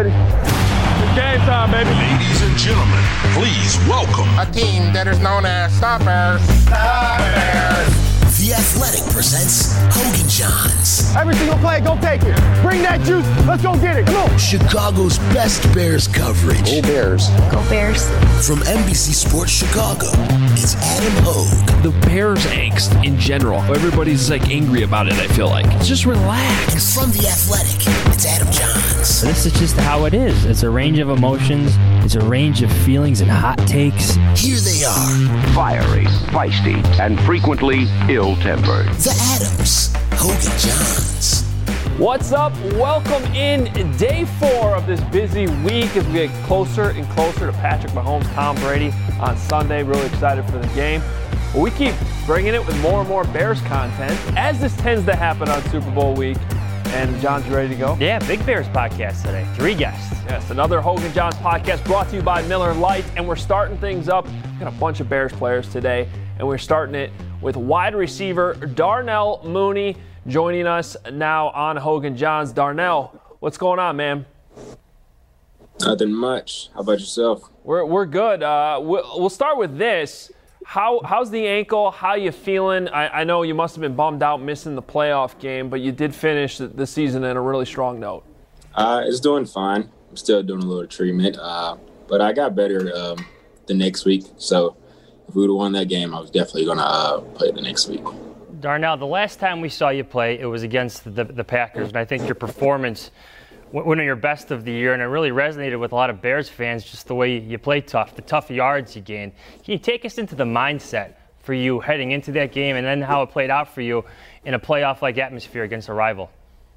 ready. It's game time, baby. Ladies and gentlemen, please welcome a team that is known as Stoppers. Stoppers. The Athletic presents Hogan Johns. Every single play, go take it. Bring that juice. Let's go get it. Come on. Chicago's best Bears coverage. Go Bears. Go Bears. From NBC Sports Chicago, it's Adam Hogue. The Bears angst in general. Everybody's angry about it, I feel like. Just relax. And from The Athletic, it's Adam Johns. This is just how it is. It's a range of emotions. It's a range of feelings and hot takes. Here they are. Fiery, feisty, and frequently ill-tempered. The Adams. Hogan Johns. What's up? Welcome in day 4 of this busy week as we get closer and closer to Patrick Mahomes, Tom Brady on Sunday. Really excited for the game. But we keep bringing it with more and more Bears content, as this tends to happen on Super Bowl week. And John's ready to go? Yeah, big Bears podcast today. 3 guests. Yes, another Hogan Johns podcast brought to you by Miller Lite. And we're starting things up. We've got a bunch of Bears players today. And we're starting it with wide receiver Darnell Mooney joining us now on Hogan Johns. Darnell, what's going on, man? Nothing much. How about yourself? We're good. We'll start with this. How's the ankle? How you feeling? I know you must have been bummed out missing the playoff game, but you did finish the season in a really strong note. It's doing fine. I'm still doing a little treatment, but I got better the next week. So if we would have won that game, I was definitely going to play the next week. Darnell, the last time we saw you play, it was against the Packers, and I think your performance one of your best of the year, and it really resonated with a lot of Bears fans, just the way you play tough, the tough yards you gained. Can you take us into the mindset for you heading into that game and then how it played out for you in a playoff-like atmosphere against a rival?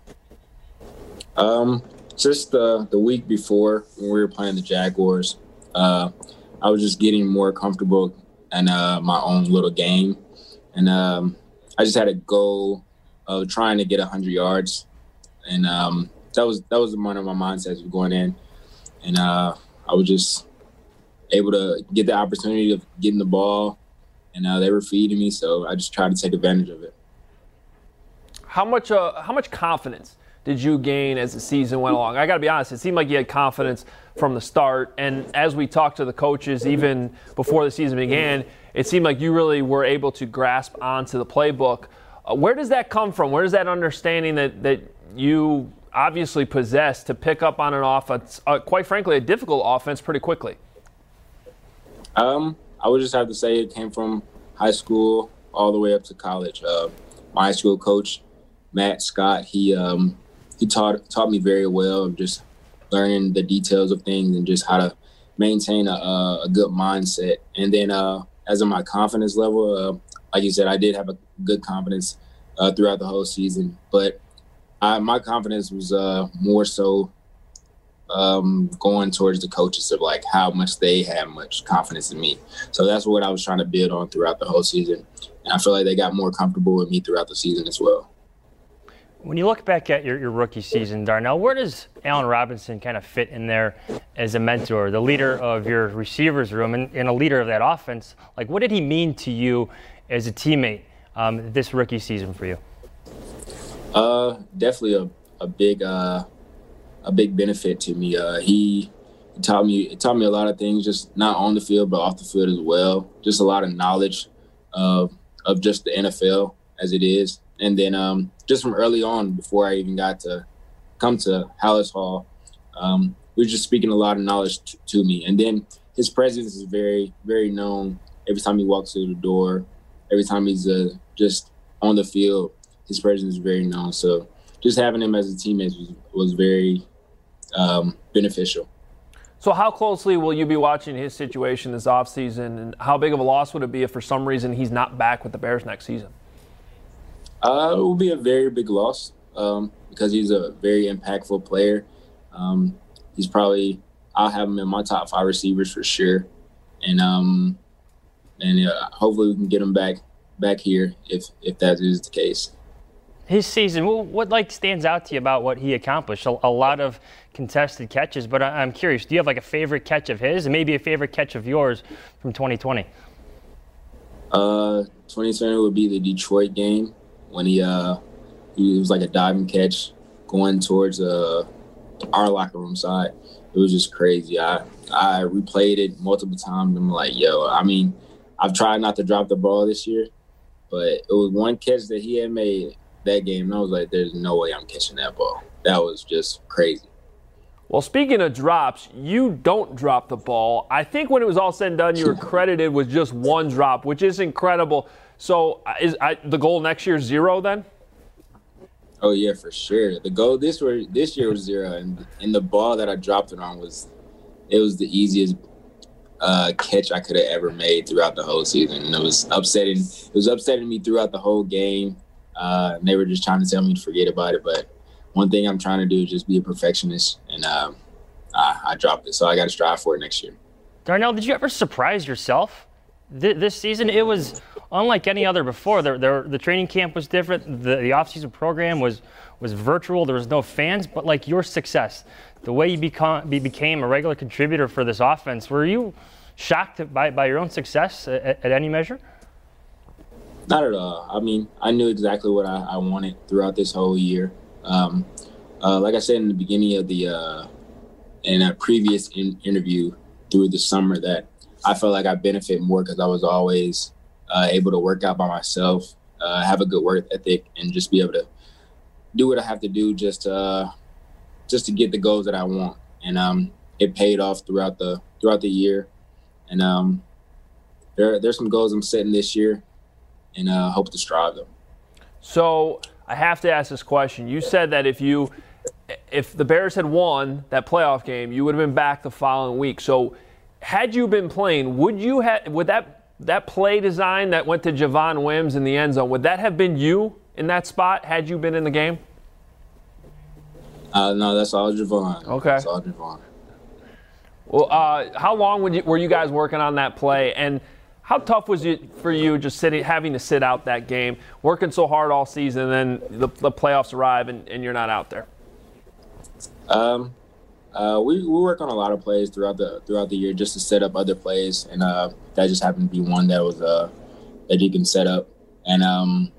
Just the week before when we were playing the Jaguars, I was just getting more comfortable in my own little game. And I just had a goal of trying to get 100 yards. And that was one of my mindsets of going in, and I was just able to get the opportunity of getting the ball, and they were feeding me, so I just tried to take advantage of it. How much confidence did you gain as the season went along? I got to be honest, it seemed like you had confidence from the start, and as we talked to the coaches even before the season began, it seemed like you really were able to grasp onto the playbook. Where does that come from? Where does that understanding that you obviously possess to pick up on an offense, quite frankly, a difficult offense pretty quickly? I would just have to say it came from high school all the way up to college. My high school coach, Matt Scott, he taught me very well of just learning the details of things and just how to maintain a good mindset. And then as of my confidence level, like you said, I did have a good confidence throughout the whole season, but my confidence was more so going towards the coaches of like how much they had much confidence in me. So that's what I was trying to build on throughout the whole season. And I feel like they got more comfortable with me throughout the season as well. When you look back at your rookie season, Darnell, where does Allen Robinson kind of fit in there as a mentor, the leader of your receivers room and a leader of that offense? Like, what did he mean to you as a teammate this rookie season for you? Definitely a big benefit to me. He taught me a lot of things, just not on the field, but off the field as well. Just a lot of knowledge of just the NFL as it is. And then just from early on, before I even got to come to Hallis Hall, we were just speaking a lot of knowledge to me. And then his presence is very, very known. Every time he walks through the door, every time he's just on the field, his presence is very known. So just having him as a teammate was very beneficial. So how closely will you be watching his situation this offseason, and how big of a loss would it be if for some reason he's not back with the Bears next season? It will be a very big loss because he's a very impactful player. I'll have him in my top 5 receivers for sure. And hopefully we can get him back here if that is the case. His season, what stands out to you about what he accomplished? A lot of contested catches, but I'm curious, do you have a favorite catch of his and maybe a favorite catch of yours from 2020? 2020 would be the Detroit game when he was like a diving catch going towards our locker room side. It was just crazy. I replayed it multiple times. I'm like, yo, I mean, I've tried not to drop the ball this year, but it was one catch that he had made that game, and I was like, there's no way I'm catching that ball. That was just crazy. Well, speaking of drops, you don't drop the ball. I think when it was all said and done, you were credited with just one drop, which is incredible. So is the goal next year 0 then? Oh, yeah, for sure. The goal this year was 0, and the ball that I dropped it on was the easiest catch I could have ever made throughout the whole season. And it was upsetting me throughout the whole game. And they were just trying to tell me to forget about it. But one thing I'm trying to do is just be a perfectionist, and I dropped it. So I got to strive for it next year. Darnell, did you ever surprise yourself this season? It was unlike any other before. The training camp was different. The off-season program was virtual. There was no fans. But like your success, the way you became a regular contributor for this offense, were you shocked by your own success at any measure? Not at all. I mean, I knew exactly what I wanted throughout this whole year. Like I said in the beginning of in a previous interview through the summer, that I felt like I benefit more because I was always able to work out by myself, have a good work ethic, and just be able to do what I have to do just to get the goals that I want. And it paid off throughout the year. And there's some goals I'm setting this year, and hope to strive them. So I have to ask this question. You said that if the Bears had won that playoff game, you would have been back the following week. So had you been playing, would that play design that went to Javon Wims in the end zone, would that have been you in that spot had you been in the game? No, that's all Javon. Okay. That's all Javon. Well, how long were you guys working on that play, and how tough was it for you just having to sit out that game, working so hard all season, and then the playoffs arrive and you're not out there? We work on a lot of plays throughout the year just to set up other plays, and that just happened to be one that was that you can set up. And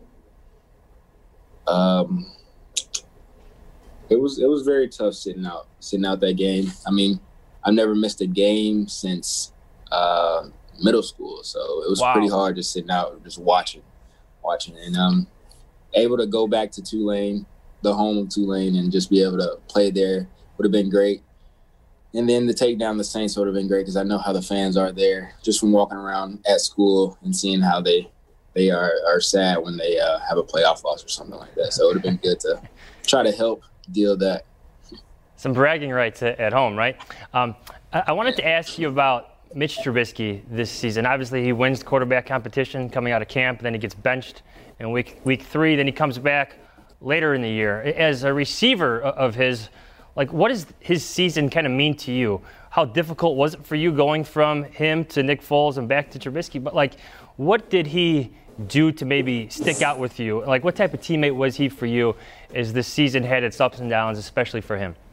it was very tough sitting out that game. I mean, I've never missed a game since middle school, so it was pretty hard just sitting out, just watching, and able to go back to Tulane, the home of Tulane, and just be able to play there would have been great. And then to take down the Saints would have been great because I know how the fans are there, just from walking around at school and seeing how they are sad when they have a playoff loss or something like that. So it would have been good to try to help deal that. Some bragging rights at home, right? I wanted to ask you about Mitch Trubisky this season. Obviously, he wins the quarterback competition coming out of camp, then he gets benched in week 3, then he comes back later in the year. As a receiver of his, like, what does his season kind of mean to you? How difficult was it for you going from him to Nick Foles and back to Trubisky? But, like, what did he do to maybe stick out with you? Like, what type of teammate was he for you as this season had its ups and downs, especially for him?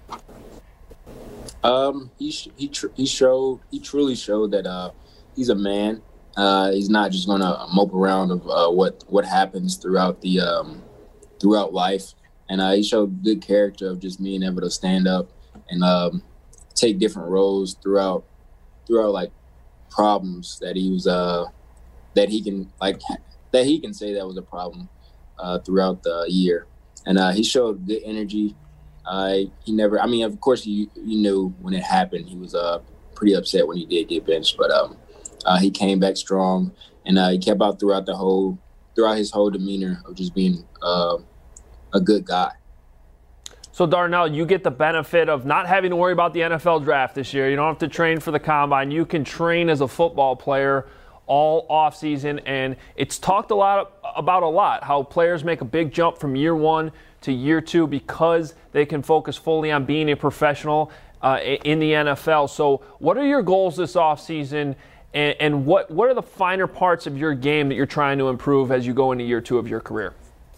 He truly showed that he's a man. He's not just gonna mope around of what happens throughout life, and he showed good character of just being able to stand up and take different roles throughout like problems that he was that he can say that was a problem throughout the year, and he showed good energy. He never. I mean, of course, you knew when it happened. He was pretty upset when he did get benched, but he came back strong, and he kept out throughout his whole demeanor of just being a good guy. So, Darnell, you get the benefit of not having to worry about the NFL draft this year. You don't have to train for the combine. You can train as a football player all offseason, and it's talked about a lot, how players make a big jump from year 1 to year 2 because they can focus fully on being a professional in the NFL. So what are your goals this offseason, and what are the finer parts of your game that you're trying to improve as you go into year 2 of your career?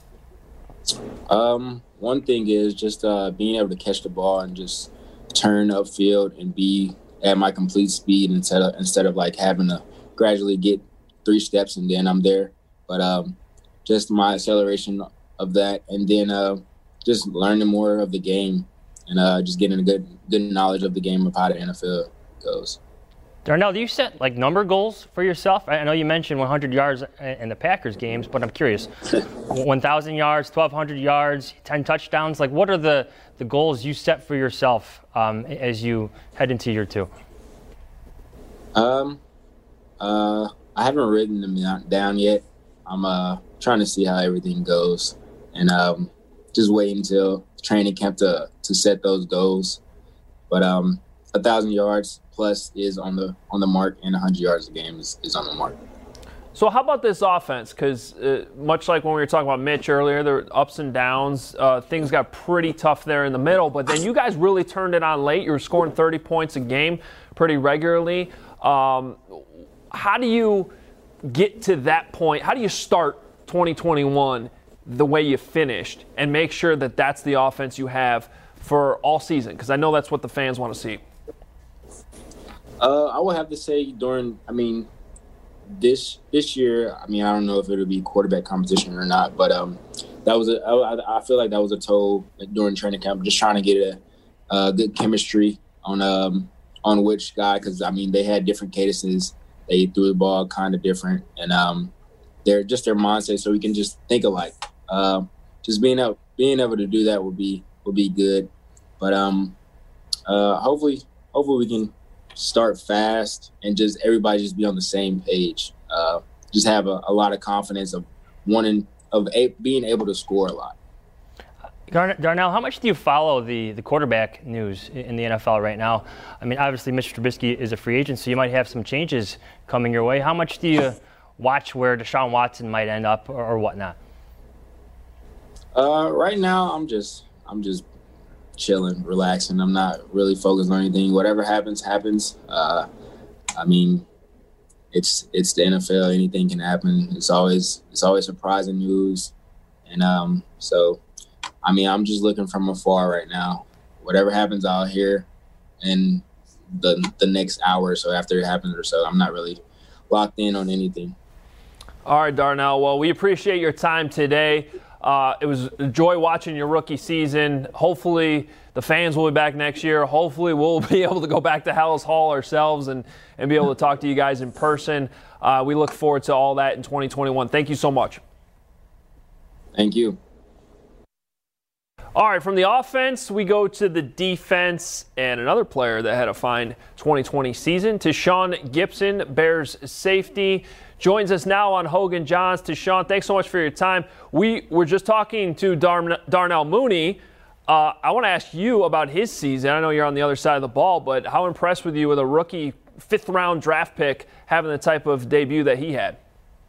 One thing is just being able to catch the ball and just turn upfield and be at my complete speed instead of like having to gradually get 3 steps and then I'm there. But just my acceleration of that, and then just learning more of the game and just getting a good knowledge of the game of how the NFL goes. Darnell, do you set like number goals for yourself? I know you mentioned 100 yards in the Packers games, but I'm curious. 1,000 yards, 1,200 yards, 10 touchdowns. Like, what are the goals you set for yourself as you head into year 2? I haven't written them down yet. I'm trying to see how everything goes, and just waiting until training camp to set those goals. But 1,000 yards plus is on the mark, and 100 yards a game is on the mark. So how about this offense? Because much like when we were talking about Mitch earlier, there were ups and downs. Things got pretty tough there in the middle, but then you guys really turned it on late. You were scoring 30 points a game pretty regularly. How do you get to that point? How do you start 2021 the way you finished and make sure that that's the offense you have for all season? Because I know that's what the fans want to see. I would have to say this year, I don't know if it'll be quarterback competition or not, but I feel like that was a toll during training camp, just trying to get a good chemistry on which guy, because they had different cadences. They threw the ball kind of different, and their mindset, so we can just think alike. Just being able to do that would be good, but hopefully we can start fast and just everybody just be on the same page. Just have a lot of confidence of being able to score a lot. Darnell, how much do you follow the quarterback news in the NFL right now? Obviously, Mitch Trubisky is a free agent, so you might have some changes coming your way. How much do you watch where Deshaun Watson might end up or whatnot? Right now, I'm just chilling, relaxing. I'm not really focused on anything. Whatever happens. It's the NFL. Anything can happen. It's always surprising news, and so. I'm just looking from afar right now. Whatever happens out here in the next hour or so after it happens or so, I'm not really locked in on anything. All right, Darnell. Well, we appreciate your time today. It was a joy watching your rookie season. Hopefully the fans will be back next year. Hopefully we'll be able to go back to Halas Hall ourselves and be able to talk to you guys in person. We look forward to all that in 2021. Thank you so much. Thank you. All right, from the offense, we go to the defense and another player that had a fine 2020 season. Tashaun Gipson, Bears safety, joins us now on Hogan Johns. Tashaun, thanks so much for your time. We were just talking to Darnell Mooney. I want to ask you about his season. I know you're on the other side of the ball, but how impressed were you with a rookie fifth-round draft pick having the type of debut that he had?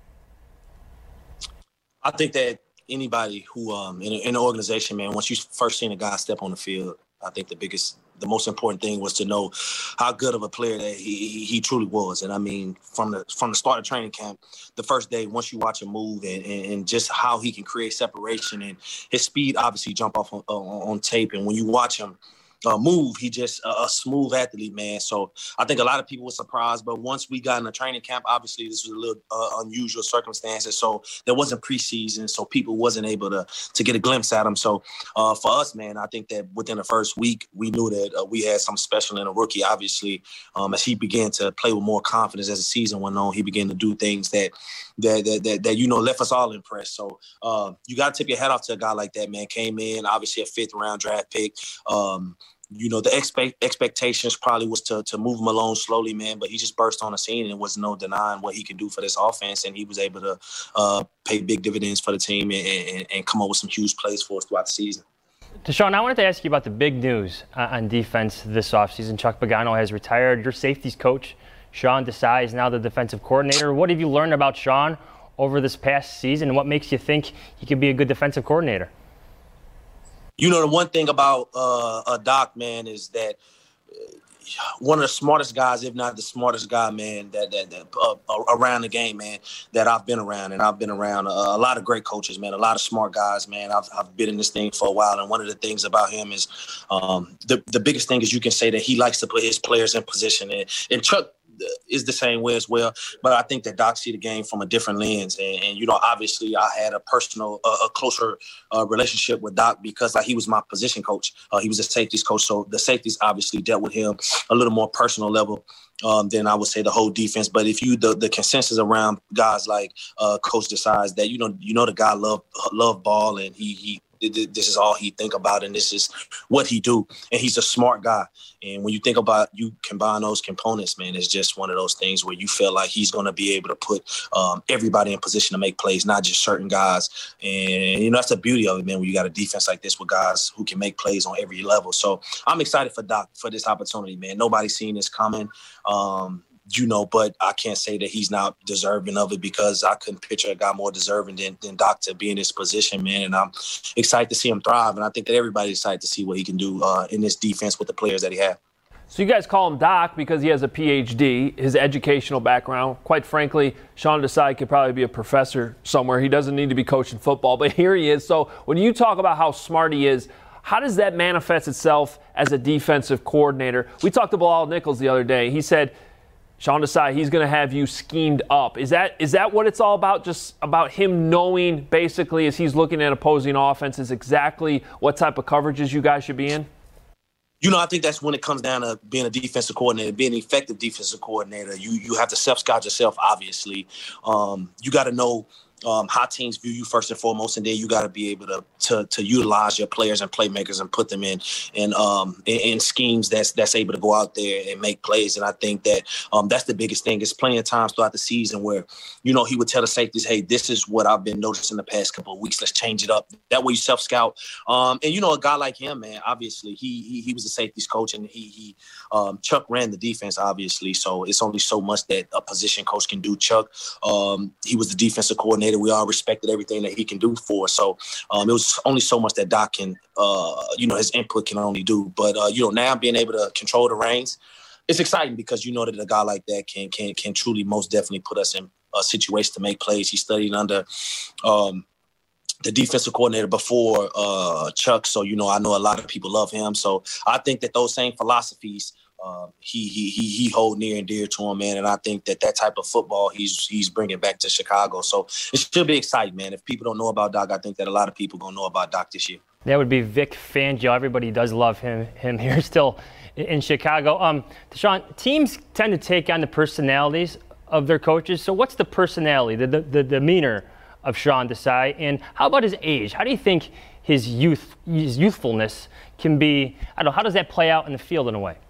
I think that anybody who in an organization, man, once you first seen a guy step on the field, I think the most important thing was to know how good of a player that he truly was. And from the start of training camp, the first day, once you watch him move and just how he can create separation, and his speed obviously jump off on tape. And when you watch him move, he just a smooth athlete, man. So I think a lot of people were surprised, but once we got in the training camp, obviously this was a little unusual circumstances, so there wasn't preseason, so people wasn't able to get a glimpse at him. So for us, man, I think that within the first week, we knew that we had something special in a rookie. Obviously, as he began to play with more confidence as the season went on, he began to do things that left us all impressed. So you got to tip your hat off to a guy like that, man. Came in, obviously a fifth-round draft pick. The expectations probably was to move him along slowly, man, but he just burst on the scene, and there was no denying what he can do for this offense, and he was able to pay big dividends for the team and come up with some huge plays for us throughout the season. Tashaun, I wanted to ask you about the big news on defense this offseason. Chuck Pagano has retired. Your safeties coach, Sean Desai, is now the defensive coordinator. What have you learned about Sean over this past season, and what makes you think he could be a good defensive coordinator? The one thing about Doc, man, is that one of the smartest guys, if not the smartest guy, man, that around the game, man, that I've been around. And I've been around a lot of great coaches, man, a lot of smart guys, man. I've been in this thing for a while. And one of the things about him is the biggest thing is you can say that he likes to put his players in position. And Chuck is the same way as well. But I think that Doc see the game from a different lens. And you know, obviously I had a closer relationship with Doc because he was my position coach. He was a safeties coach. So the safeties obviously dealt with him a little more personal level than I would say the whole defense. But if you, the consensus around guys like Coach decides that, you know, the guy love ball and this is all he think about and this is what he do. And he's a smart guy. And when you think about, you combine those components, man, it's just one of those things where you feel like he's going to be able to put everybody in position to make plays, not just certain guys. And, you know, that's the beauty of it, man, when you got a defense like this with guys who can make plays on every level. So I'm excited for Doc for this opportunity, man. Nobody's seen this coming. You know, but I can't say that he's not deserving of it because I couldn't picture a guy more deserving than Doc to be in this position, man. And I'm excited to see him thrive. And I think that everybody's excited to see what he can do in this defense with the players that he has. So you guys call him Doc because he has a PhD, his educational background. Quite frankly, Sean Desai could probably be a professor somewhere. He doesn't need to be coaching football, but here he is. So when you talk about how smart he is, how does that manifest itself as a defensive coordinator? We talked to Bilal Nichols the other day. He said, Sean Desai, he's going to have you schemed up. Is that what it's all about? Just about him knowing, basically, as he's looking at opposing offenses, exactly what type of coverages you guys should be in? You know, I think that's when it comes down to being a defensive coordinator, being an effective defensive coordinator. You have to self-scout yourself, obviously. You got to know how teams view you first and foremost, and then you got to be able to utilize your players and playmakers and put them in schemes that's able to go out there and make plays. And I think that that's the biggest thing. It's plenty of times throughout the season where, you know, he would tell the safeties, hey, this is what I've been noticing the past couple of weeks. Let's change it up. That way you self-scout. And, you know, a guy like him, man, obviously he was a safeties coach, and Chuck ran the defense, obviously. So it's only so much that a position coach can do. Chuck, he was the defensive coordinator. We all respected everything that he can do for us. So it was only so much that Doc can, you know, his input can only do. But, you know, now being able to control the reins, it's exciting because you know that a guy like that can truly most definitely put us in a situation to make plays. He studied under the defensive coordinator before Chuck. So, you know, I know a lot of people love him. So I think that those same philosophies, he hold near and dear to him, man. And I think that type of football he's bringing back to Chicago. So it should be exciting, man. If people don't know about Doc, I think that a lot of people going to know about Doc this year. That would be Vic Fangio. Everybody does love him here still in Chicago. Deshaun, teams tend to take on the personalities of their coaches. So what's the personality, the demeanor of Sean Desai? And how about his age? How do you think his youthfulness can be, I don't know, how does that play out in the field in a way?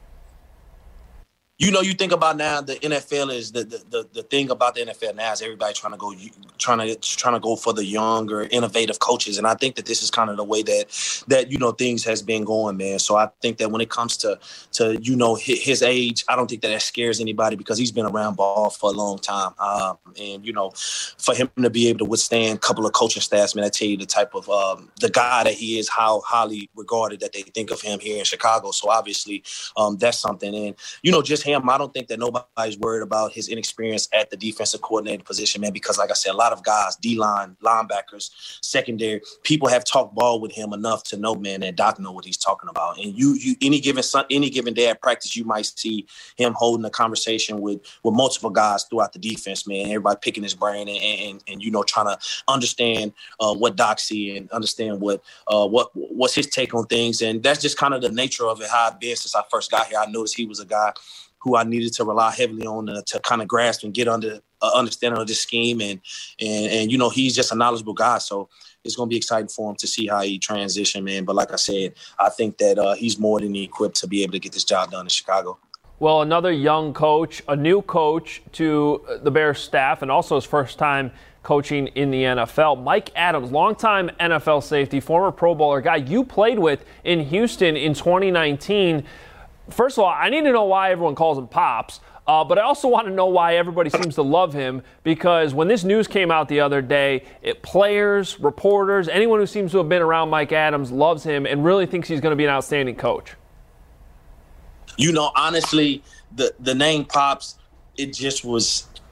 You know, you think about now the NFL is the thing about the NFL now is everybody trying to go for the younger, innovative coaches, and I think that this is kind of the way that you know things has been going, man. So I think that when it comes to you know his age, I don't think that scares anybody because he's been around ball for a long time, and you know, for him to be able to withstand a couple of coaching staffs, man, I tell you the type of the guy that he is, how highly regarded that they think of him here in Chicago. So obviously, that's something, and you know, just him. I don't think that nobody's worried about his inexperience at the defensive coordinator position, man, because like I said, a lot of guys, D-line, linebackers, secondary, people have talked ball with him enough to know, man, that Doc know what he's talking about. And you any given day at practice, you might see him holding a conversation with multiple guys throughout the defense, man, everybody picking his brain and you know, trying to understand what Doc see and understand what's his take on things. And that's just kind of the nature of it, how I've been since I first got here. I noticed he was a guy who I needed to rely heavily on to kind of grasp and get under understanding of this scheme. And you know, he's just a knowledgeable guy. So it's going to be exciting for him to see how he transition, man. But like I said, I think that he's more than equipped to be able to get this job done in Chicago. Well, another young coach, a new coach to the Bears staff, and also his first time coaching in the NFL. Mike Adams, longtime NFL safety, former Pro Bowler, guy you played with in Houston in 2019. First of all, I need to know why everyone calls him Pops, but I also want to know why everybody seems to love him, because when this news came out the other day, players, reporters, anyone who seems to have been around Mike Adams loves him and really thinks he's going to be an outstanding coach. You know, honestly, the name Pops, it just was –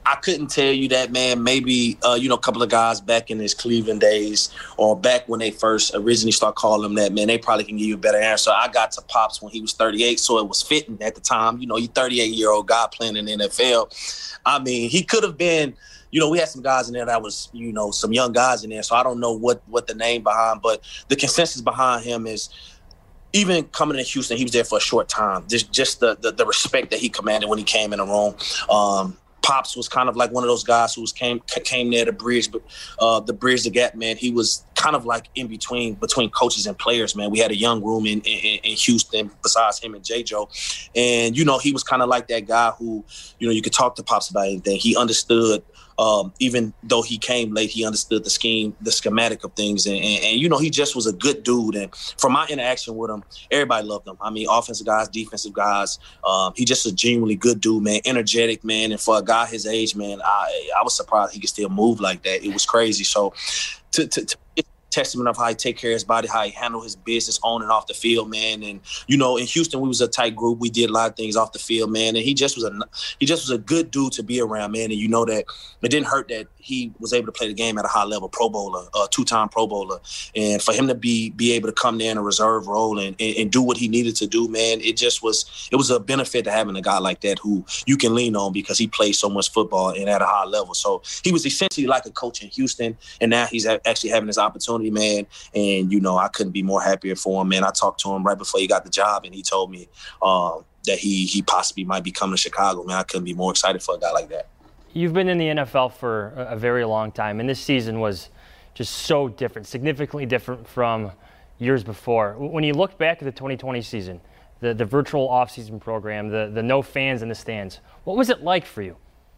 I couldn't tell you that, man. Maybe, a couple of guys back in his Cleveland days or back when they first originally start calling him that, man, they probably can give you a better answer. I got to Pops when he was 38, so it was fitting at the time. You 38-year-old guy playing in the NFL. I mean, he could have been, we had some guys in there that was, some young guys in there, so I don't know what the name behind, but the consensus behind him is, even coming to Houston, he was there for a short time. Just the respect that he commanded when he came in the room. Pops was kind of like one of those guys who came there to bridge the gap, man. He was kind of like in between coaches and players, man. We had a young room in Houston besides him and J-Joe. And, he was kind of like that guy who, you could talk to Pops about anything. He understood, even though he came late, he understood the schematic of things. And he just was a good dude. And from my interaction with him, everybody loved him. I mean, offensive guys, defensive guys. He just a genuinely good dude, man, energetic, man. And for a guy his age, man, I was surprised he could still move like that. It was crazy. So to testament of how he take care of his body, how he handle his business on and off the field, man. And in Houston we was a tight group. We did a lot of things off the field, man. And he just was a good dude to be around, man. And that it didn't hurt that he was able to play the game at a high level, Pro Bowler, two-time Pro Bowler. And for him to be able to come there in a reserve role and do what he needed to do, man, it was a benefit to having a guy like that who you can lean on because he plays so much football and at a high level. So he was essentially like a coach in Houston, and now he's actually having this opportunity, man. And, I couldn't be more happier for him, man. I talked to him right before he got the job, and he told me that he possibly might be coming to Chicago, man. I couldn't be more excited for a guy like that. You've been in the NFL for a very long time, and this season was just so different, significantly different from years before. When you look back at the 2020 season, the virtual offseason program, the no fans in the stands, what was it like for you?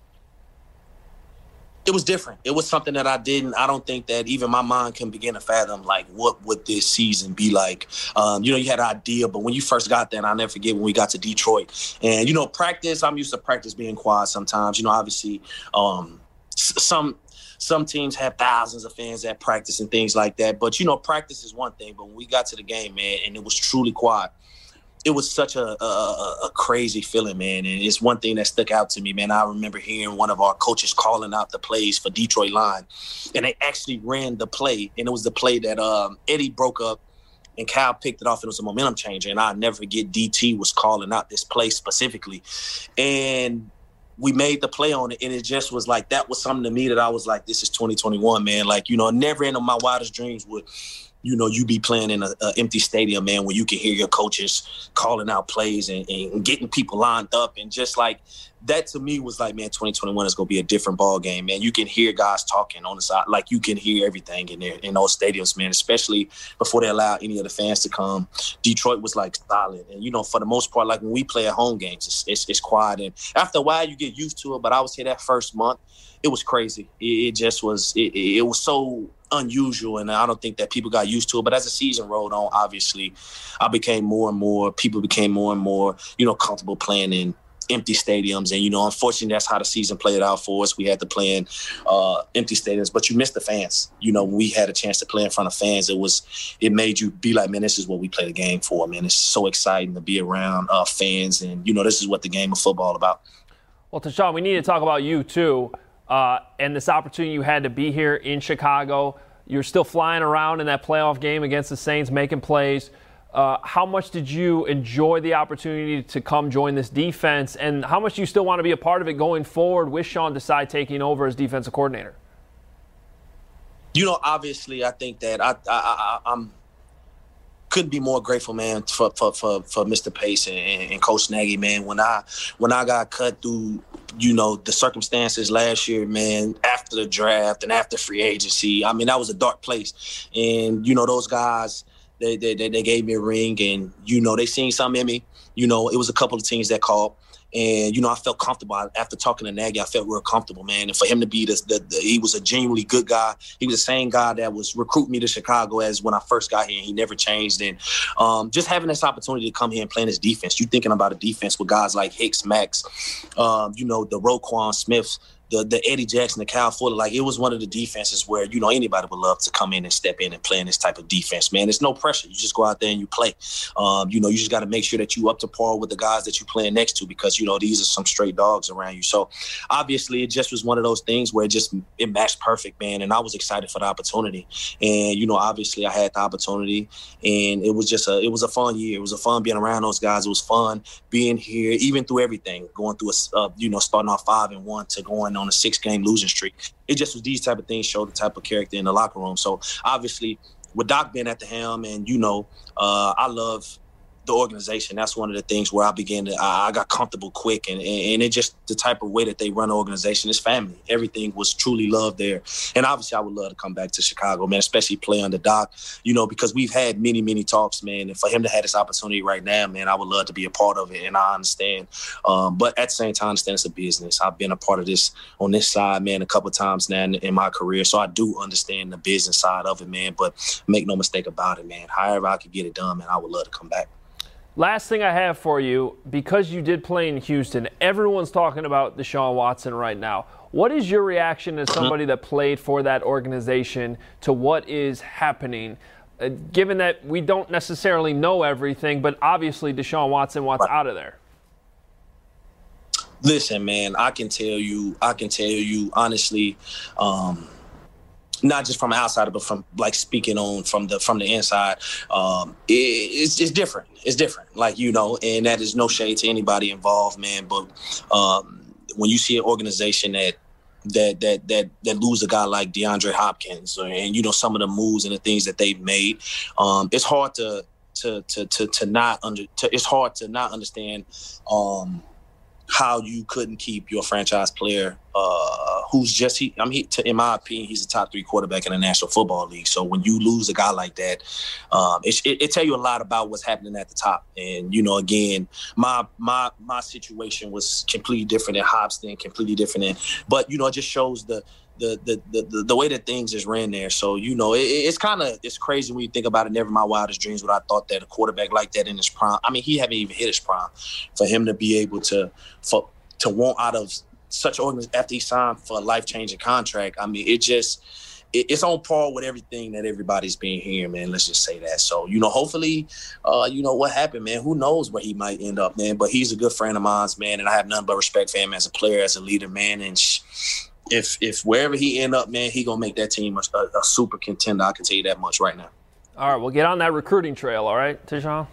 It was different. It was something that I don't think that even my mind can begin to fathom, like, what would this season be like? You had an idea, but when you first got there, and I'll never forget when we got to Detroit. And, practice, I'm used to practice being quiet sometimes. Obviously, some teams have thousands of fans at practice and things like that. But, practice is one thing. But when we got to the game, man, and it was truly quiet, it was such a crazy feeling, man. And it's one thing that stuck out to me, man. I remember hearing one of our coaches calling out the plays for Detroit Line, and they actually ran the play. And it was the play that Eddie broke up and Cal picked it off. It was a momentum changer. And I'll never forget DT was calling out this play specifically. And we made the play on it, and it just was like, that was something to me that I was like, this is 2021, man. Like, never in my wildest dreams would you be playing in an empty stadium, man, where you can hear your coaches calling out plays and getting people lined up. And just like that to me was like, man, 2021 is going to be a different ball game, man. You can hear guys talking on the side. Like, you can hear everything in there, in those stadiums, man, especially before they allow any of the fans to come. Detroit was like solid. And, for the most part, like when we play at home games, it's quiet. And after a while you get used to it. But I was here that first month. It was crazy. It just was, it was so unusual, and I don't think that people got used to it. But as the season rolled on, obviously, people became more and more, comfortable playing in empty stadiums. And, unfortunately, that's how the season played out for us. We had to play in empty stadiums, but you missed the fans. When we had a chance to play in front of fans, it made you be like, man, this is what we play the game for, man. It's so exciting to be around fans, and, this is what the game of football about. Well, Tashawn, we need to talk about you, too. And this opportunity you had to be here in Chicago. You're still flying around in that playoff game against the Saints, making plays. How much did you enjoy the opportunity to come join this defense? And how much do you still want to be a part of it going forward with Sean Desai taking over as defensive coordinator? Obviously, I think that I'm couldn't be more grateful, man, for Mr. Pace and Coach Nagy, man. When I got cut through, the circumstances last year, man, after the draft and after free agency, I mean, that was a dark place. And, those guys, they gave me a ring, and, they seen something in me. It was a couple of teams that called. And, I felt comfortable. After talking to Nagy, I felt real comfortable, man. And for him to be he was a genuinely good guy. He was the same guy that was recruiting me to Chicago as when I first got here, and he never changed. And just having this opportunity to come here and play this defense, you're thinking about a defense with guys like Hicks, Max, the Roquan Smith, the Eddie Jackson, the Kyle Fuller, like it was one of the defenses where, you know, anybody would love to come in and step in and play in this type of defense, man. It's no pressure. You just go out there and you play. You know, you just got to make sure that you up to par with the guys that you're playing next to because, you know, these are some straight dogs around you. So obviously it just was one of those things where it matched perfect, man. And I was excited for the opportunity. And, you know, obviously I had the opportunity and it was a fun year. It was a fun being around those guys. It was fun being here, even through everything, going through starting off 5-1 to going on a 6-game losing streak. It just was these type of things show the type of character in the locker room. So obviously with Doc being at the helm and, you know, I love the organization. That's one of the things where I got comfortable quick and it just the type of way that they run the organization is family. Everything was truly loved there. And obviously I would love to come back to Chicago, man, especially play under Doc, you know, because we've had many, many talks, man. And for him to have this opportunity right now, man, I would love to be a part of it. And I understand. But at the same time, I understand it's a business. I've been a part of this on this side, man, a couple of times now in my career. So I do understand the business side of it, man. But make no mistake about it, man. However I could get it done, man, I would love to come back. Last thing I have for you, because you did play in Houston, everyone's talking about Deshaun Watson right now. What is your reaction as somebody that played for that organization to what is happening, given that we don't necessarily know everything, but obviously Deshaun Watson wants out of there? Listen, man, I can tell you honestly, not just from outside, but from like speaking on from the inside, it's different. It's different, like, you know, and that is no shade to anybody involved, man. But when you see an organization that lose a guy like DeAndre Hopkins, and you know some of the moves and the things that they've made, it's hard it's hard to not understand how you couldn't keep your franchise player who's in my opinion, he's a top 3 quarterback in the National Football League. So when you lose a guy like that, it tell you a lot about what's happening at the top. And, you know, again, my situation was completely different than Hobson, completely different. But, you know, it just shows the way that things is ran there. So, you know, it's crazy when you think about it. Never my wildest dreams would I thought that a quarterback like that in his prime, I mean, he haven't even hit his prime, for him to be able to want out of such organization after he signed for a life-changing contract. I mean, it's on par with everything that everybody's been hearing, man. Let's just say that. So, you know, hopefully, you know, what happened, man. Who knows where he might end up, man. But he's a good friend of mine, man, and I have nothing but respect for him as a player, as a leader, man. And if wherever he end up, man, he gonna make that team a super contender. I can tell you that much right now. All right, well, get on that recruiting trail, all right, Deshaun?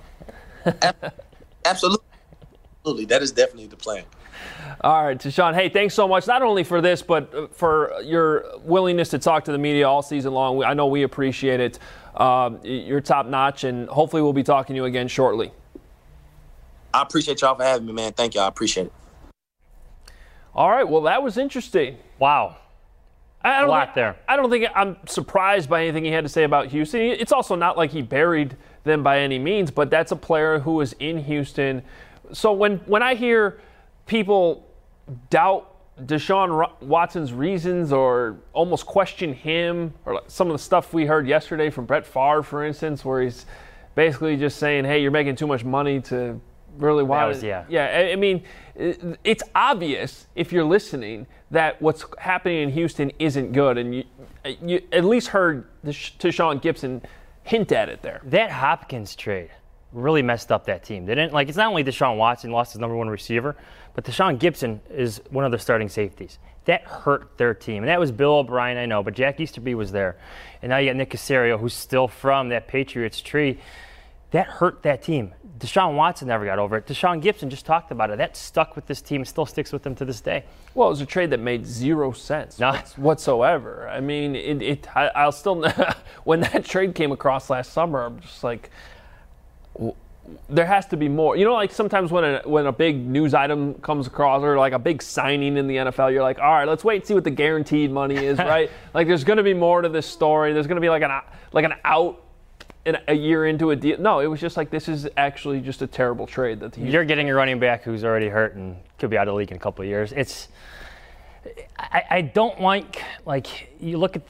Absolutely. That is definitely the plan. All right, Deshaun, hey, thanks so much, not only for this, but for your willingness to talk to the media all season long. I know we appreciate it. You're top-notch, and hopefully we'll be talking to you again shortly. I appreciate y'all for having me, man. Thank y'all. I appreciate it. All right, well, that was interesting. Wow. I don't think I'm surprised by anything he had to say about Houston. It's also not like he buried them by any means, but that's a player who was in Houston. So when I hear people doubt Deshaun Watson's reasons or almost question him, or some of the stuff we heard yesterday from Brett Favre, for instance, where he's basically just saying, hey, you're making too much money to really want to. Yeah, I mean, it's obvious if you're listening that what's happening in Houston isn't good, and you at least heard Tashawn Gibson hint at it there. That Hopkins trade really messed up that team. They didn't, like, it's not only Deshaun Watson lost his number one receiver, but Tashawn Gibson is one of their starting safeties. That hurt their team. And that was Bill O'Brien, I know, but Jack Easterby was there. And now you got Nick Caserio, who's still from that Patriots tree. That hurt that team. Deshaun Watson never got over it. Tashawn Gibson just talked about it. That stuck with this team. It still sticks with them to this day. Well, it was a trade that made zero sense whatsoever. I mean, I'll still when that trade came across last summer, I'm just like, there has to be more. You know, like sometimes when a big news item comes across, or like a big signing in the NFL, you're like, all right, let's wait and see what the guaranteed money is, right? Like, there's going to be more to this story. There's going to be like an out in a year into a deal. No, it was just like, this is actually just a terrible trade. You're getting a running back who's already hurt and could be out of the league in a couple of years. I don't like you look at the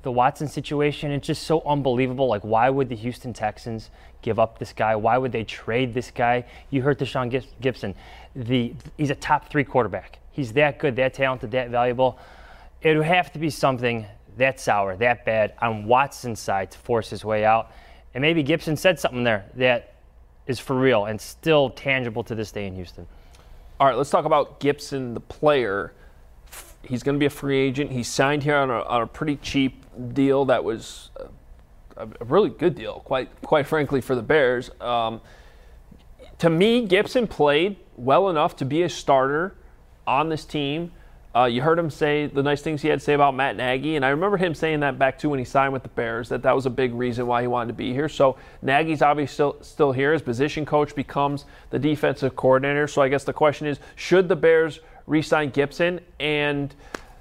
the Watson situation, it's just so unbelievable. Like, why would the Houston Texans give up this guy? Why would they trade this guy? You heard Deshaun Gibson. He's a top 3 quarterback. He's that good, that talented, that valuable. It would have to be something that sour, that bad on Watson's side to force his way out. And maybe Gibson said something there that is for real and still tangible to this day in Houston. All right, let's talk about Gibson, the player. He's going to be a free agent. He signed here on a pretty cheap deal that was a really good deal, quite frankly, for the Bears. To me, Gibson played well enough to be a starter on this team. You heard him say the nice things he had to say about Matt Nagy, and I remember him saying that back too when he signed with the Bears, that was a big reason why he wanted to be here. So Nagy's obviously still here. His position coach becomes the defensive coordinator. So I guess the question is, should the Bears re-sign Gibson, and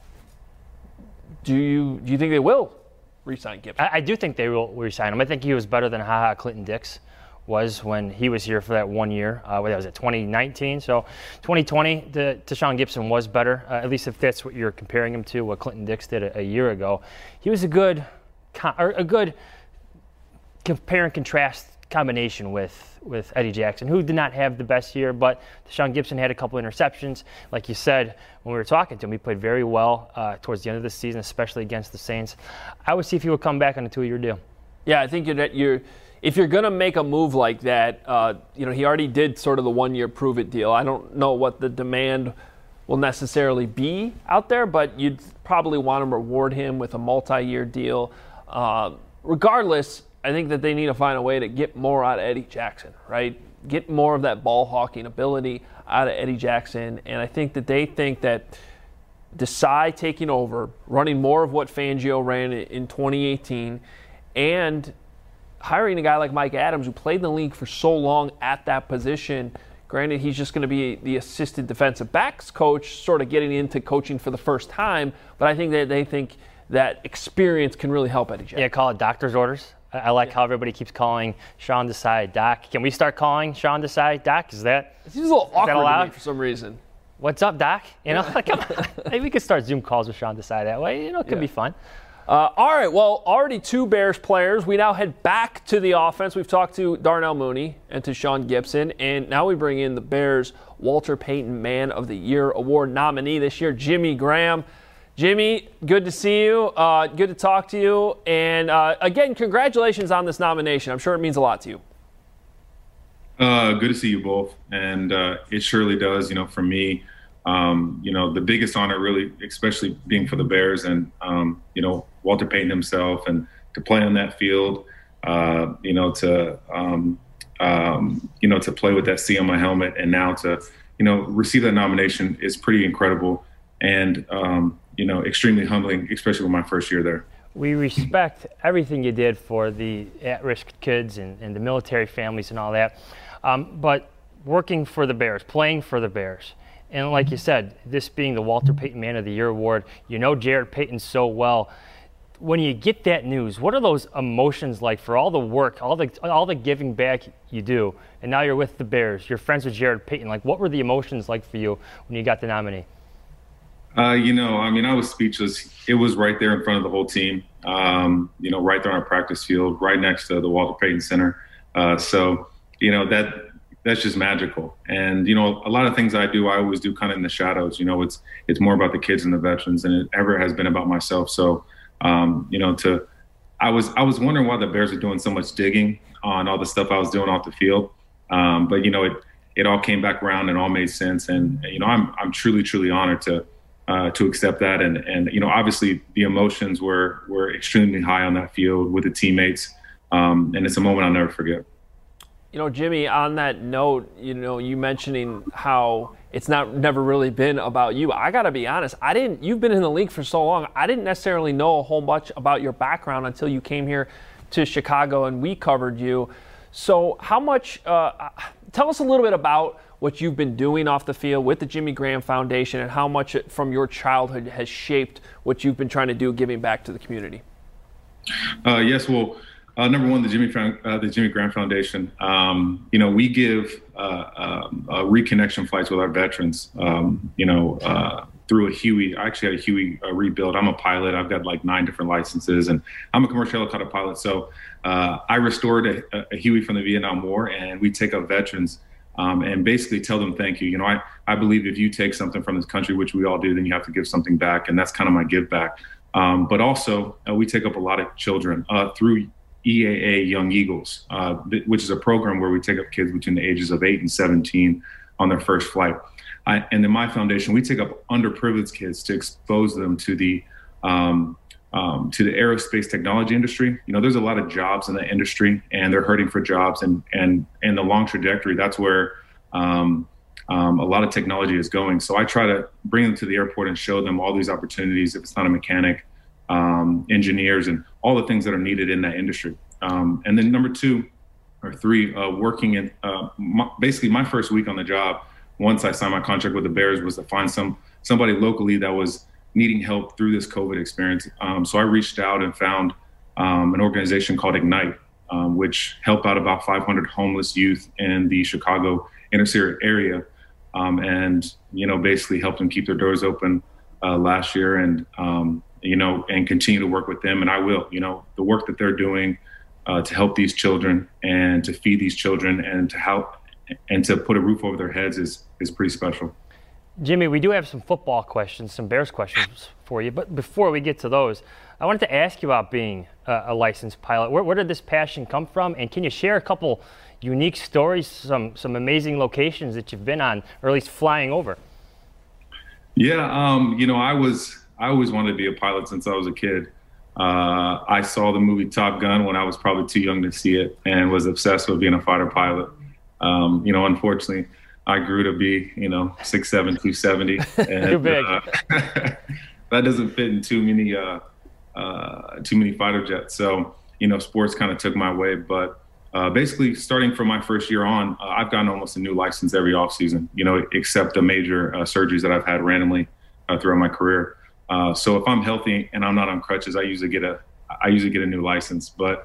do you think they will re-sign Gibson? I do think they will re-sign him. I think he was better than HaHa Clinton-Dix was when he was here for that 1 year. What was it, 2019? So 2020, Deshaun Gibson was better, at least if that's what you're comparing him to, what Clinton-Dix did a year ago. He was a good compare and contrast combination with Eddie Jackson, who did not have the best year, but Deshaun Gibson had a couple interceptions. Like you said, when we were talking to him, he played very well towards the end of the season, especially against the Saints. I would see if he would come back on a 2-year deal. Yeah, I think if you're going to make a move like that, he already did sort of the 1-year prove-it deal. I don't know what the demand will necessarily be out there, but you'd probably want to reward him with a multi-year deal. Regardless, I think that they need to find a way to get more out of Eddie Jackson, right? Get more of that ball-hawking ability out of Eddie Jackson. And I think that they think that Desai taking over, running more of what Fangio ran in 2018, and hiring a guy like Mike Adams, who played in the league for so long at that position. Granted, he's just going to be the assistant defensive backs coach, sort of getting into coaching for the first time, but I think that they think that experience can really help Eddie Jackson. Yeah, call it doctor's orders. I like how everybody keeps calling Sean Desai Doc. Can we start calling Sean Desai Doc? Is that it seems a little awkward to me for some reason. What's up, Doc? Come on. Maybe we could start Zoom calls with Sean Desai that way. It could be fun. All right, well, already 2 Bears players. We now head back to the offense. We've talked to Darnell Mooney and to Sean Gibson, and now we bring in the Bears' Walter Payton Man of the Year award nominee this year, Jimmy Graham. Jimmy, good to see you. Good to talk to you. And, again, congratulations on this nomination. I'm sure it means a lot to you. Good to see you both. And it surely does, for me. The biggest honor really, especially being for the Bears and, Walter Payton himself, and to play on that field, to play with that C on my helmet, and now to, receive that nomination is pretty incredible and, extremely humbling, especially with my first year there. We respect everything you did for the at-risk kids and the military families and all that. But working for the Bears, playing for the Bears, and like you said, this being the Walter Payton Man of the Year award, Jared Payton so well. When you get that news, what are those emotions like for all the work, all the giving back you do, and now you're with the Bears, you're friends with Jared Payton? Like, what were the emotions like for you when you got the nominee? I was speechless. It was right there in front of the whole team, right there on our practice field, right next to the Walter Payton Center. That's just magical. And, a lot of things I always do kind of in the shadows. It's more about the kids and the veterans than it ever has been about myself. So, I was wondering why the Bears are doing so much digging on all the stuff I was doing off the field. But it all came back around and all made sense. And, I'm truly, truly honored to accept that. And obviously the emotions were extremely high on that field with the teammates. And it's a moment I'll never forget. Jimmy, on that note, you mentioning how it's never really been about you. I got to be honest, you've been in the league for so long. I didn't necessarily know a whole much about your background until you came here to Chicago and we covered you. So how much, tell us a little bit about what you've been doing off the field with the Jimmy Graham Foundation and how much from your childhood has shaped what you've been trying to do, giving back to the community. Yes, well, Number one, the Jimmy Grant Foundation. We give reconnection flights with our veterans. Through a Huey. I actually had a Huey rebuild. I'm a pilot. I've got like 9 different licenses, and I'm a commercial helicopter pilot. So I restored a Huey from the Vietnam War, and we take up veterans and basically tell them thank you. I believe if you take something from this country, which we all do, then you have to give something back, and that's kind of my give back. But also, we take up a lot of children through EAA Young Eagles, which is a program where we take up kids between the ages of 8 and 17 on their first flight. And in my foundation, we take up underprivileged kids to expose them to the aerospace technology industry. There's a lot of jobs in that industry, and they're hurting for jobs. And the long trajectory, that's where a lot of technology is going. So I try to bring them to the airport and show them all these opportunities. If it's not a mechanic, engineers, and all the things that are needed in that industry. And then number 2 or 3, working in basically my first week on the job. Once I signed my contract with the Bears, was to find somebody locally that was needing help through this COVID experience. So I reached out and found an organization called Ignite, which helped out about 500 homeless youth in the Chicago inner city area, and basically helped them keep their doors open last year, and and continue to work with them. And I will. The work that they're doing to help these children and to feed these children and to help and to put a roof over their heads is pretty special. Jimmy, we do have some football questions, some Bears questions for you. But before we get to those, I wanted to ask you about being a licensed pilot. Where did this passion come from? And can you share a couple unique stories, some amazing locations that you've been on, or at least flying over? Yeah, I always wanted to be a pilot since I was a kid. I saw the movie Top Gun when I was probably too young to see it, and was obsessed with being a fighter pilot. Unfortunately, I grew to be, 6'7", 270. And, too big. That doesn't fit in too many fighter jets. So, sports kind of took my way. But basically, starting from my first year on, I've gotten almost a new license every offseason, except the major surgeries that I've had randomly throughout my career. So if I'm healthy and I'm not on crutches, I usually get a new license. But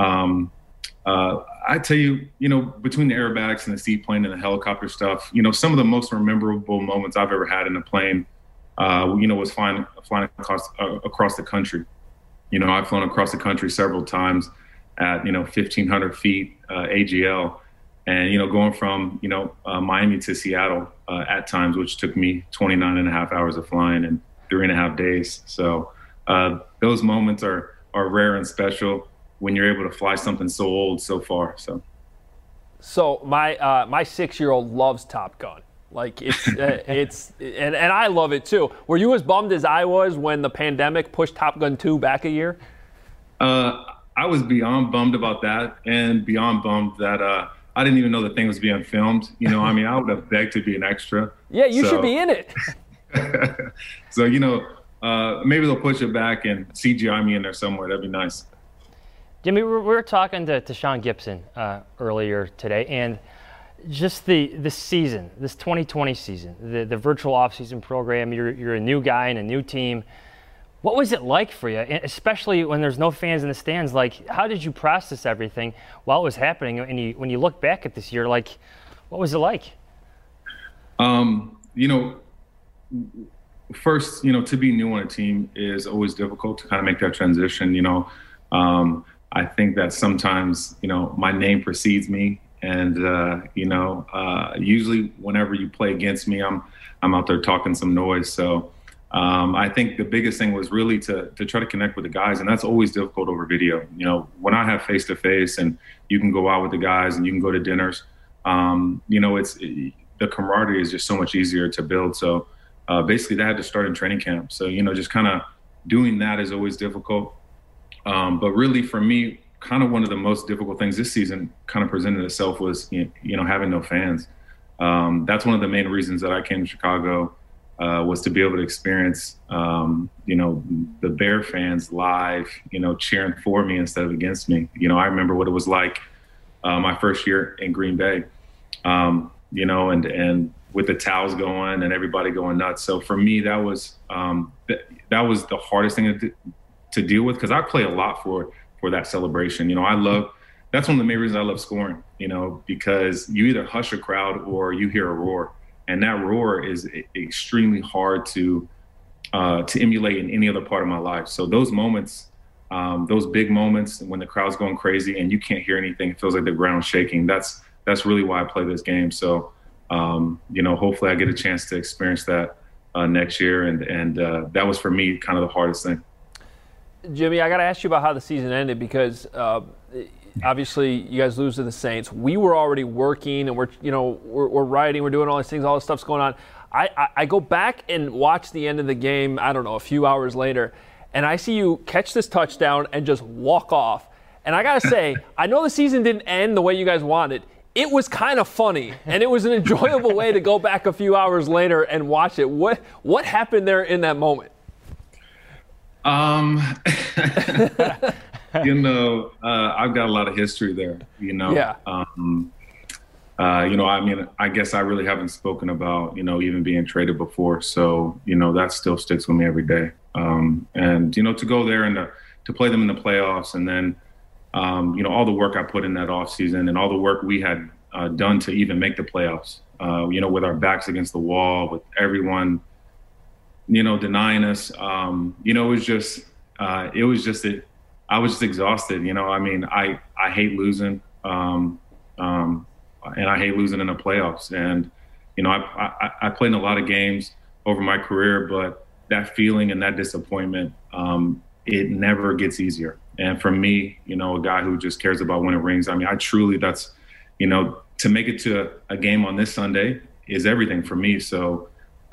I tell you, between the aerobatics and the seaplane and the helicopter stuff, some of the most memorable moments I've ever had in a plane, was flying across the country. I've flown across the country several times at 1,500 feet AGL, and going from Miami to Seattle at times, which took me 29 and a half hours of flying in 3.5 days. So those moments are rare and special when you're able to fly something so old so far. So my 6-year-old loves Top Gun. Like it's and I love it too. Were you as bummed as I was when the pandemic pushed Top Gun 2 back a year? I was beyond bummed about that, and beyond bummed that I didn't even know the thing was being filmed. I would have begged to be an extra. Yeah, you should be in it. So maybe they'll push it back and CGI me in there somewhere. That'd be nice. Jimmy, we were talking to Sean Gibson earlier today, and just the season, this 2020 season, the virtual offseason program, you're a new guy and a new team. What was it like for you, especially when there's no fans in the stands? Like, how did you process everything while it was happening? And when you look back at this year, like, what was it like? First, to be new on a team is always difficult to kind of make that transition. I think that sometimes, my name precedes me, and usually whenever you play against me, I'm out there talking some noise. So I think the biggest thing was really to try to connect with the guys, and that's always difficult over video. When I have face to face, and you can go out with the guys and you can go to dinners, it's the camaraderie is just so much easier to build. So basically, that had to start in training camp. So just kind of doing that is always difficult. But really, for me, kind of one of the most difficult things this season kind of presented itself was, having no fans. That's one of the main reasons that I came to Chicago, was to be able to experience, the Bear fans live, cheering for me instead of against me. I remember what it was like my first year in Green Bay, and with the towels going and everybody going nuts. So for me, that was the hardest thing to deal with, because I play a lot for for that celebration. That's one of the main reasons I love scoring, because you either hush a crowd or you hear a roar. And that roar is extremely hard to emulate in any other part of my life. So those moments, those big moments when the crowd's going crazy and you can't hear anything, it feels like the ground's shaking. That's really why I play this game. So, hopefully I get a chance to experience that next year. And that was for me kind of the hardest thing. Jimmy, I got to ask you about how the season ended because obviously you guys lose to the Saints. We were already working and we're writing, we're doing all these things, all this stuff's going on. I go back and watch the end of the game, I don't know, a few hours later, and I see you catch this touchdown and just walk off. And I got to say, I know the season didn't end the way you guys wanted. It was kind of funny, and it was an enjoyable way to go back a few hours later and watch it. What happened there in that moment? I've got a lot of history there, Yeah. I guess I really haven't spoken about, even being traded before. So, that still sticks with me every day. And to go there and to play them in the playoffs and then, all the work I put in that offseason and all the work we had done to even make the playoffs, with our backs against the wall, with everyone, denying us, it was just that I was just exhausted. I hate losing. And I hate losing in the playoffs. And, I played in a lot of games over my career, but that feeling and that disappointment, it never gets easier. And for me, a guy who just cares about winning rings, I truly, that's, to make it to a game on this Sunday is everything for me. So,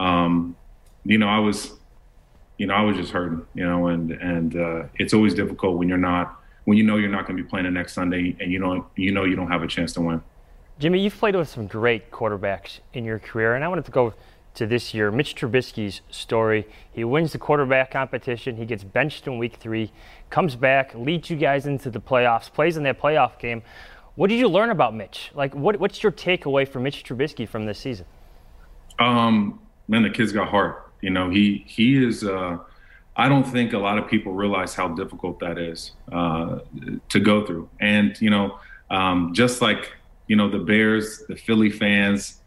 I was just hurting, and it's always difficult when you're not going to be playing the next Sunday and you don't have a chance to win. Jimmy, you've played with some great quarterbacks in your career, and I wanted to go to this year. Mitch Trubisky's story. He wins the quarterback competition. He gets benched in week 3, comes back, leads you guys into the playoffs, plays in that playoff game. What did you learn about Mitch? What's your takeaway from Mitch Trubisky from this season? Man, the kid's got heart. He is. I don't think a lot of people realize how difficult that is to go through. And just like the Bears, the Philly fans,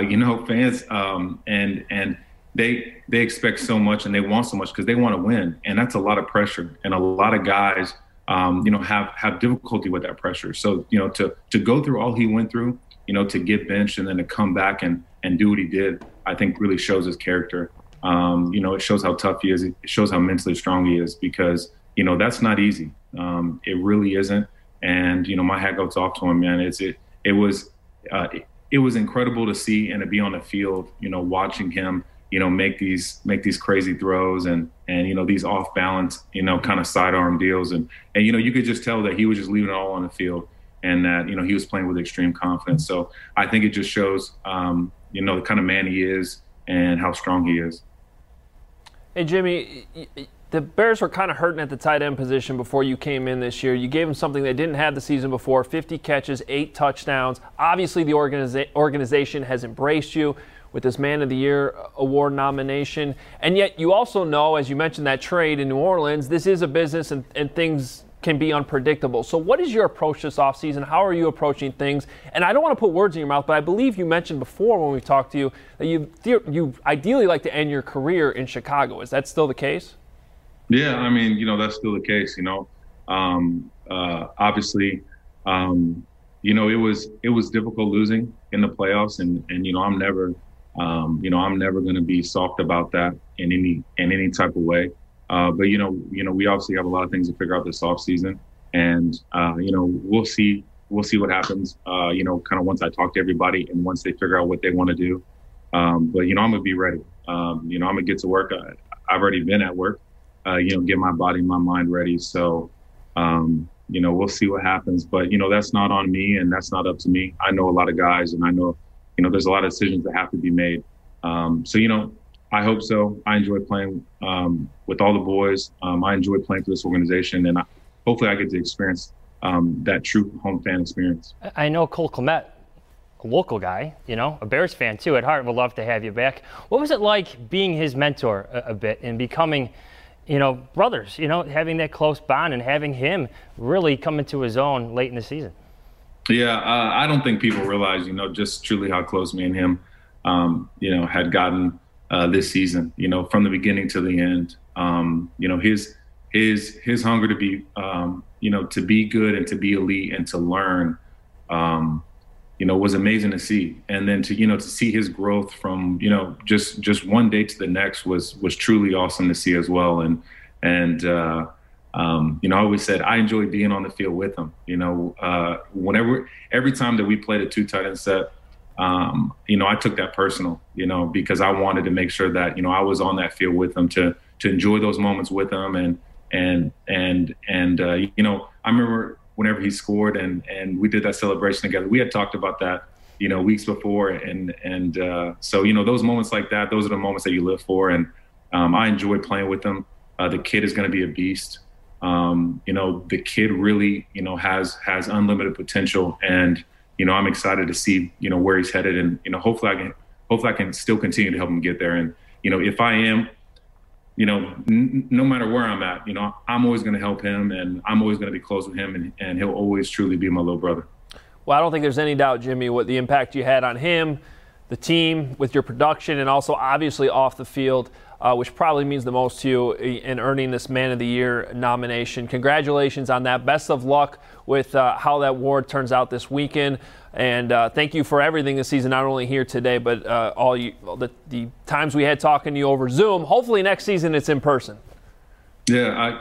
and they expect so much and they want so much because they want to win, and that's a lot of pressure. And a lot of guys, have difficulty with that pressure. So to go through all he went through, to get benched and then to come back and do what he did, I think really shows his character. It shows how tough he is. It shows how mentally strong he is because that's not easy. It really isn't. And my hat goes off to him, man. It was incredible to see and to be on the field, watching him, make these crazy throws and these off balance, kind of sidearm deals. And you could just tell that he was just leaving it all on the field and that, he was playing with extreme confidence. So I think it just shows, the kind of man he is and how strong he is. Hey, Jimmy, the Bears were kind of hurting at the tight end position before you came in this year. You gave them something they didn't have the season before, 50 catches, 8 touchdowns. Obviously, the organization has embraced you with this Man of the Year award nomination. And yet you also know, as you mentioned that trade in New Orleans, this is a business and things can be unpredictable. So what is your approach this offseason? How are you approaching things? And I don't want to put words in your mouth, but I believe you mentioned before when we talked to you that you ideally like to end your career in Chicago. Is that still the case? Yeah, that's still the case. Obviously, it was difficult losing in the playoffs, and I'm never going to be soft about that in any type of way. But we obviously have a lot of things to figure out this offseason, and we'll see what happens. Kind of once I talk to everybody and once they figure out what they want to do. But I'm gonna be ready. I'm gonna get to work. I've already been at work. Get my body, my mind ready. So, we'll see what happens. But that's not on me, and that's not up to me. I know a lot of guys, and I know there's a lot of decisions that have to be made. So I hope so. I enjoy playing with all the boys. I enjoy playing for this organization, and hopefully I get to experience that true home fan experience. I know Cole Kmet, a local guy, a Bears fan too at heart, would love to have you back. What was it like being his mentor a bit and becoming, brothers, having that close bond and having him really come into his own late in the season. Yeah, I don't think people realize, just truly how close me and him, had gotten this season, from the beginning to the end. His hunger to be, to be good and to be elite and to learn, was amazing to see. And then to see his growth from, just one day to the next was truly awesome to see as well. And I always said I enjoyed being on the field with him. Every time that we played a 2 tight end set, I took that personal, because I wanted to make sure that, I was on that field with him to enjoy those moments with him. And I remember whenever he scored and we did that celebration together, we had talked about that, weeks before. So, those moments like that, those are the moments that you live for. And I enjoy playing with him. The kid is going to be a beast. The kid really, has unlimited potential, and, I'm excited to see, where he's headed, and, hopefully I can still continue to help him get there. And, if I am, no matter where I'm at, I'm always going to help him, and I'm always going to be close with him, and he'll always truly be my little brother. Well, I don't think there's any doubt, Jimmy, what the impact you had on him, the team, with your production, and also obviously off the field, which probably means the most to you in earning this Man of the Year nomination. Congratulations on that. Best of luck with how that award turns out this weekend. And thank you for everything this season, not only here today, but the times we had talking to you over Zoom. Hopefully next season it's in person. Yeah,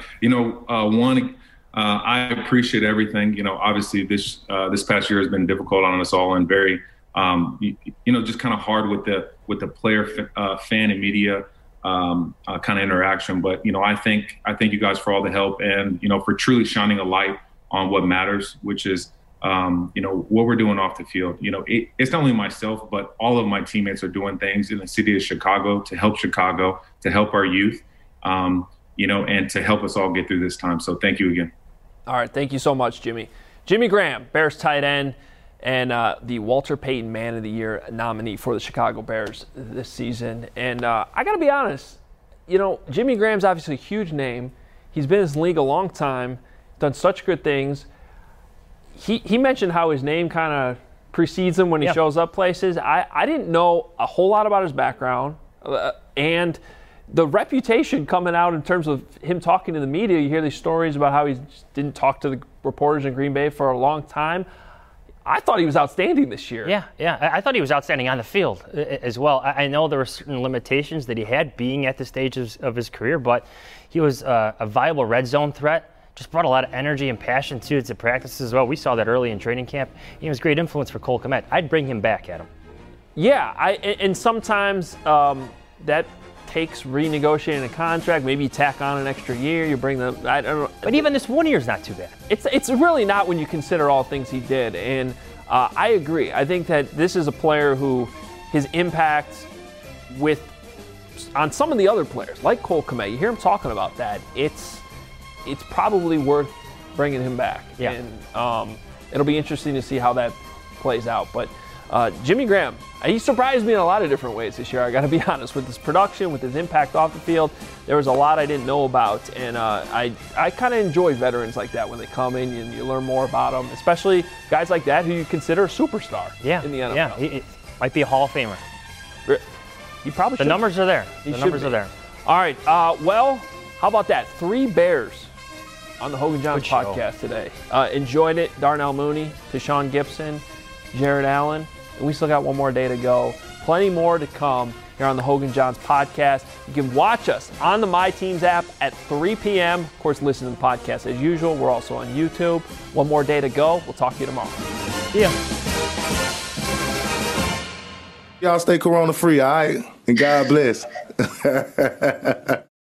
I appreciate everything. Obviously this past year has been difficult on us all, and very, just kind of hard with the player, fan, and media kind of interaction. But I thank you guys for all the help, and for truly shining a light on what matters, which is what we're doing off the field. It's not only myself, but all of my teammates are doing things in the city of Chicago, to help our youth, and to help us all get through this time. So thank you again. All right, thank you so much, Jimmy. Jimmy Graham, Bears tight end, and the Walter Payton Man of the Year nominee for the Chicago Bears this season. And I got to be honest, Jimmy Graham's obviously a huge name. He's been in this league a long time, done such good things. He mentioned how his name kind of precedes him when he shows up places. I didn't know a whole lot about his background, and the reputation coming out in terms of him talking to the media. You hear these stories about how he didn't talk to the reporters in Green Bay for a long time. I thought he was outstanding this year. Yeah. I thought he was outstanding on the field as well. I know there were certain limitations that he had being at the stage of his career, but he was a viable red zone threat. Just brought a lot of energy and passion to practice as well. We saw that early in training camp. He was a great influence for Cole Kmet. I'd bring him back, Adam. Yeah, and sometimes that takes renegotiating a contract. Maybe you tack on an extra year. You bring them. I don't know. But even this 1 year's not too bad. It's really not when you consider all things he did. And I agree. I think that this is a player who his impact on some of the other players, like Cole Kmet, you hear him talking about that. It's probably worth bringing him back. Yeah. And it'll be interesting to see how that plays out. But Jimmy Graham, he surprised me in a lot of different ways this year. I got to be honest, with his production, with his impact off the field. There was a lot I didn't know about, and I kind of enjoy veterans like that when they come in and you learn more about them, especially guys like that who you consider a superstar in the NFL. Yeah, he might be a Hall of Famer. He probably should. The numbers are there. The numbers are there. All right. Well, how about that? 3 Bears on the Hogan Johns podcast today. Enjoyed it. Darnell Mooney, Tashawn Gibson, Jared Allen. And we still got one more day to go. Plenty more to come here on the Hogan Johns podcast. You can watch us on the My Teams app at 3 p.m. Of course, listen to the podcast as usual. We're also on YouTube. One more day to go. We'll talk to you tomorrow. See ya. Y'all stay corona free, all right? And God bless.